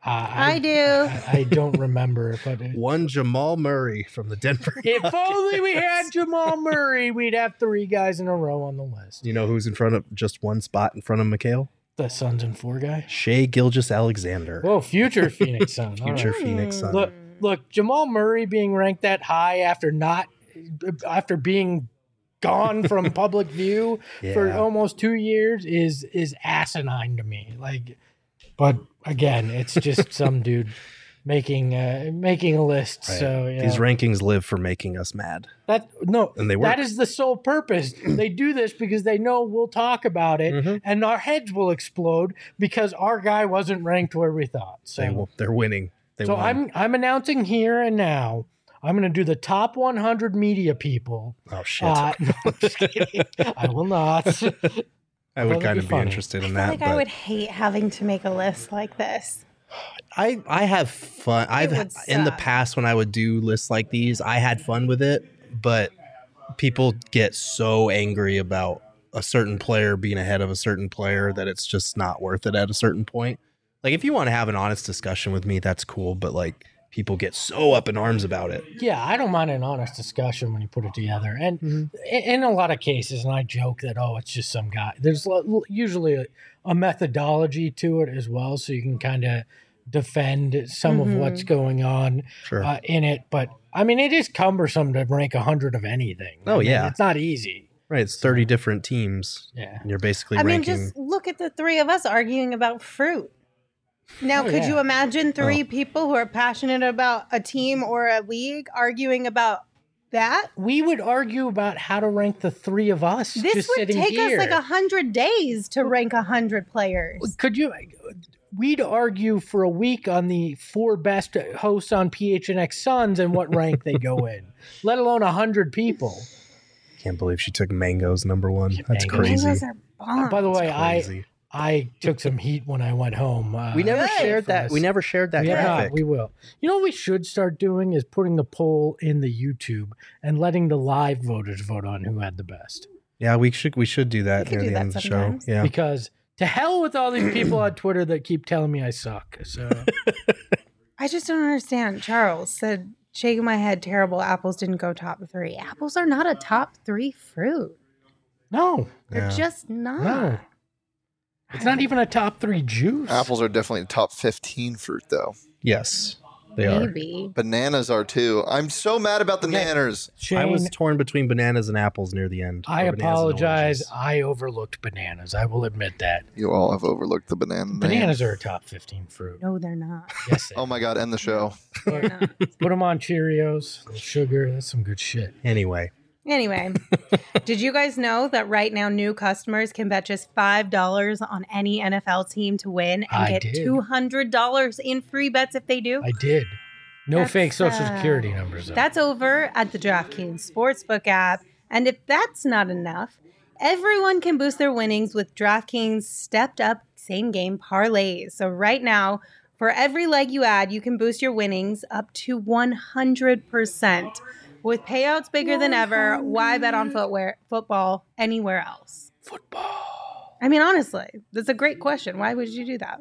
I do. I don't remember, but one Jamal Murray from the Denver. If only we had Jamal Murray, we'd have 3 guys in a row on the list. You know who's in front of just one spot in front of McHale? The Suns and 4 guy. Shai Gilgeous-Alexander. Whoa, future Phoenix Sun. Future Phoenix Sun. Look, Jamal Murray being ranked that high after being gone from public view for almost 2 years is asinine to me. Like, but again, it's just some dude making a list. Right. So yeah. These rankings live for making us mad. And they work. that is the sole purpose. They do this because they know we'll talk about it, and our heads will explode because our guy wasn't ranked where we thought. So They're winning. They so won. I'm announcing here and now. I'm going to do the top 100 media people. Oh shit! No, I'm just kidding. I will not. I would that'd kind be of be funny. interested in I that. feel like but I would hate having to make a list like this. I have fun. would In the suck. past when I would do lists like these, I had fun with it, but people get so angry about a certain player being ahead of a certain player that it's just not worth it at a certain point. Like if you want to have an honest discussion with me, that's cool, but like people get so up in arms about it. Yeah, I don't mind an honest discussion when you put it together. And in a lot of cases, and I joke that, it's just some guy. There's usually a methodology to it as well, so you can kind of defend some of what's going on Sure. in it. But, I mean, it is cumbersome to rank 100 of anything. Oh, I mean, yeah. It's not easy. Right. It's 30 different teams. Yeah. And you're basically I mean, ranking. just look at the three of us arguing about fruit. Now, could yeah. you imagine three people who are passionate about a team or a league arguing about that? We would argue about how to rank the three of us This just would sitting take here. us like 100 days to rank 100 players. Could you? We'd argue for a week on the 4 best hosts on PHNX Suns and what rank they go in, let alone 100 people. Can't believe she took mangoes number one. That's Mangoes. crazy. Mangoes are bomb. By the way, Crazy. I took some heat when I went home. We never Good. shared for that. us. We never shared that We have graphic. not. We will. You know what we should start doing is putting the poll in the YouTube and letting the live voters vote on who had the best. Yeah, we should do that We could near do the that end of the show. sometimes. Yeah. Because to hell with all these people on Twitter that keep telling me I suck. So I just don't understand. Charles said, shaking my head, terrible. Apples didn't go top 3. Apples are not a top 3 fruit. no, They're Yeah. just not. no. It's not even a top 3 juice. Apples are definitely top 15 fruit, though. Yes, they are. Maybe. Bananas are too. I'm so mad about the nanners. Shane, I was torn between bananas and apples near the end. I or bananas and apologize. oranges. I overlooked bananas. I will admit that. You all have overlooked the banana. name. Bananas are a top 15 fruit. No, they're not. Yes, they Oh my God, end the show. They're not. Put them on Cheerios, a little sugar. That's some good shit. Anyway, Anyway, did you guys know that right now new customers can bet just $5 on any NFL team to win and I get did. $200 in free bets if they do? I did. No That's, fake social security numbers. Though. That's over at the DraftKings Sportsbook app. And if that's not enough, everyone can boost their winnings with DraftKings stepped up same game parlays. So right now, for every leg you add, you can boost your winnings up to 100%. With payouts bigger than ever, why bet on football anywhere else? football. I mean, honestly, that's a great question. Why would you do that?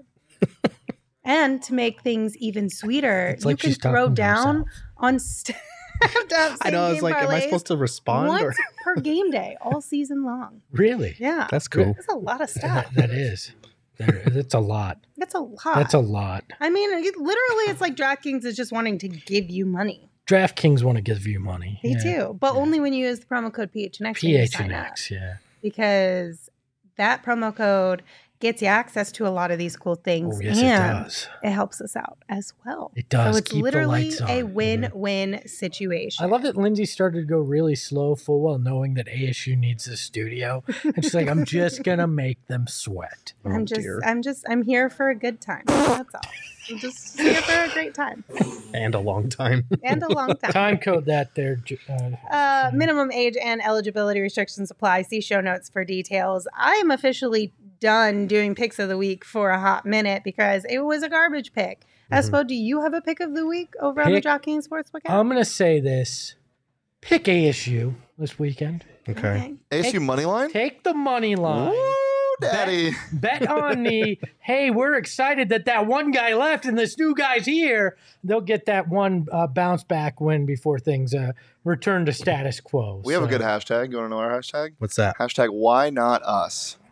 And to make things even sweeter, It's like you she's can throw talking to down herself. on stepped up I know. I was like, am I supposed to respond? Or once per game day all season long. Really? Yeah, that's cool. that's a lot of stuff. That is. That's a lot. That's a lot. That's a lot. I mean, literally, it's like DraftKings is just wanting to give you money. DraftKings want to give you money. They do, but only when you use the promo code PHNX. when you sign up. PHNX, yeah. Because that promo code gets you access to a lot of these cool things. Oh, yes, and it does. it helps us out as well. It does. So it's Keep the literally lights a on. win-win situation. I love that Lindsay started to go really slow, full well knowing that ASU needs a studio. And she's like, I'm just going to make them sweat. I'm here for a good time. That's all. I'm just here for a great time And a long time. and a long time. Time code that there. Minimum age and eligibility restrictions apply. See show notes for details. I am officially done doing picks of the week for a hot minute because it was a garbage pick. Espo, do you have a pick of the week over on the Pick- DraftKings Sportsbook app? I'm going to say this. Pick ASU this weekend. Okay. ASU money line? Take the money line. Woo, daddy. Bet on the, hey, we're excited that one guy left and this new guy's here. They'll get that one bounce back win before things return to status quo. We have a So, good hashtag. You want to know our hashtag? What's that? Hashtag why not us?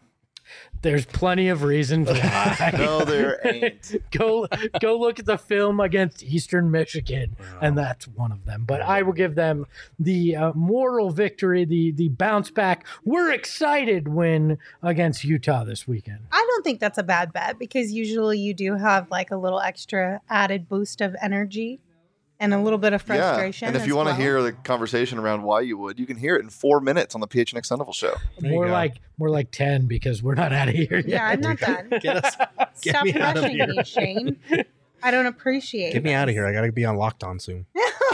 There's plenty of reasons why. No, there ain't. Go look at the film against Eastern Michigan, and that's one of them. But I will give them the moral victory, the bounce back. We're excited win against Utah this weekend. I don't think that's a bad bet because usually you do have like a little extra added boost of energy and a little bit of frustration. And if you want to hear the conversation around why you would, you can hear it in 4 minutes on the PHNX Sun Devil Show. More like 10 because we're not out of here yet. Yeah, I'm not done. Stop me out of rushing here. me, Shane. I don't appreciate Get me out of here. I got to be on Locked On soon.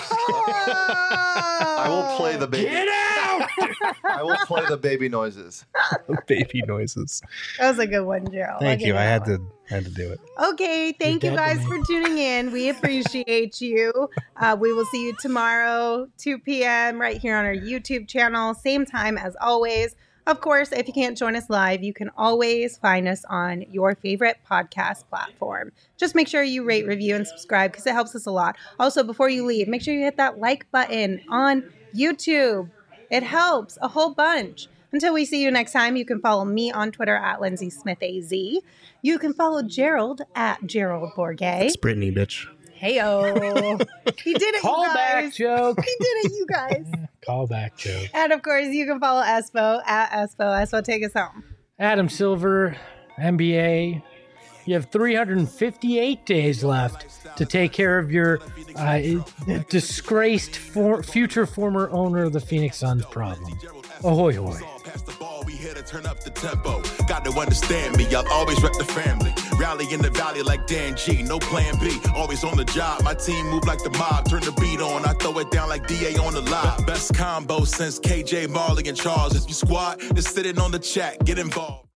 I will play the baby. Get out! I will play the baby noises. Baby noises. That was a good one, Gerald. Thank you. I had to do it. Okay, thank you You're dead to guys me. for tuning in. We appreciate you. We will see you tomorrow, 2 p.m. right here on our YouTube channel. Same time as always. Of course, if you can't join us live, you can always find us on your favorite podcast platform. Just make sure you rate, review, and subscribe because it helps us a lot. Also, before you leave, make sure you hit that like button on YouTube. It helps a whole bunch. Until we see you next time, you can follow me on Twitter at Lindsay Smith AZ. You can follow Gerald at Gerald Bourget. It's Brittany, bitch. Heyo. He did it, Call you back guys. joke. He did it, you guys. Call back joke. And of course, you can follow Espo at Espo. Espo, take us home. Adam Silver, NBA. You have 358 days left to take care of your disgraced future former owner of the Phoenix Suns problem. Ahoy, hoy. Pass the ball, we here to turn up the tempo. Got to understand me, I'll always rep the family. Rally in the valley like Dan G, no plan B. Always on the job, my team move like the mob. Turn the beat on, I throw it down like DA on the live. Best combo since KJ, Marley, and Charles. If you squad, just sitting on the chat, get involved.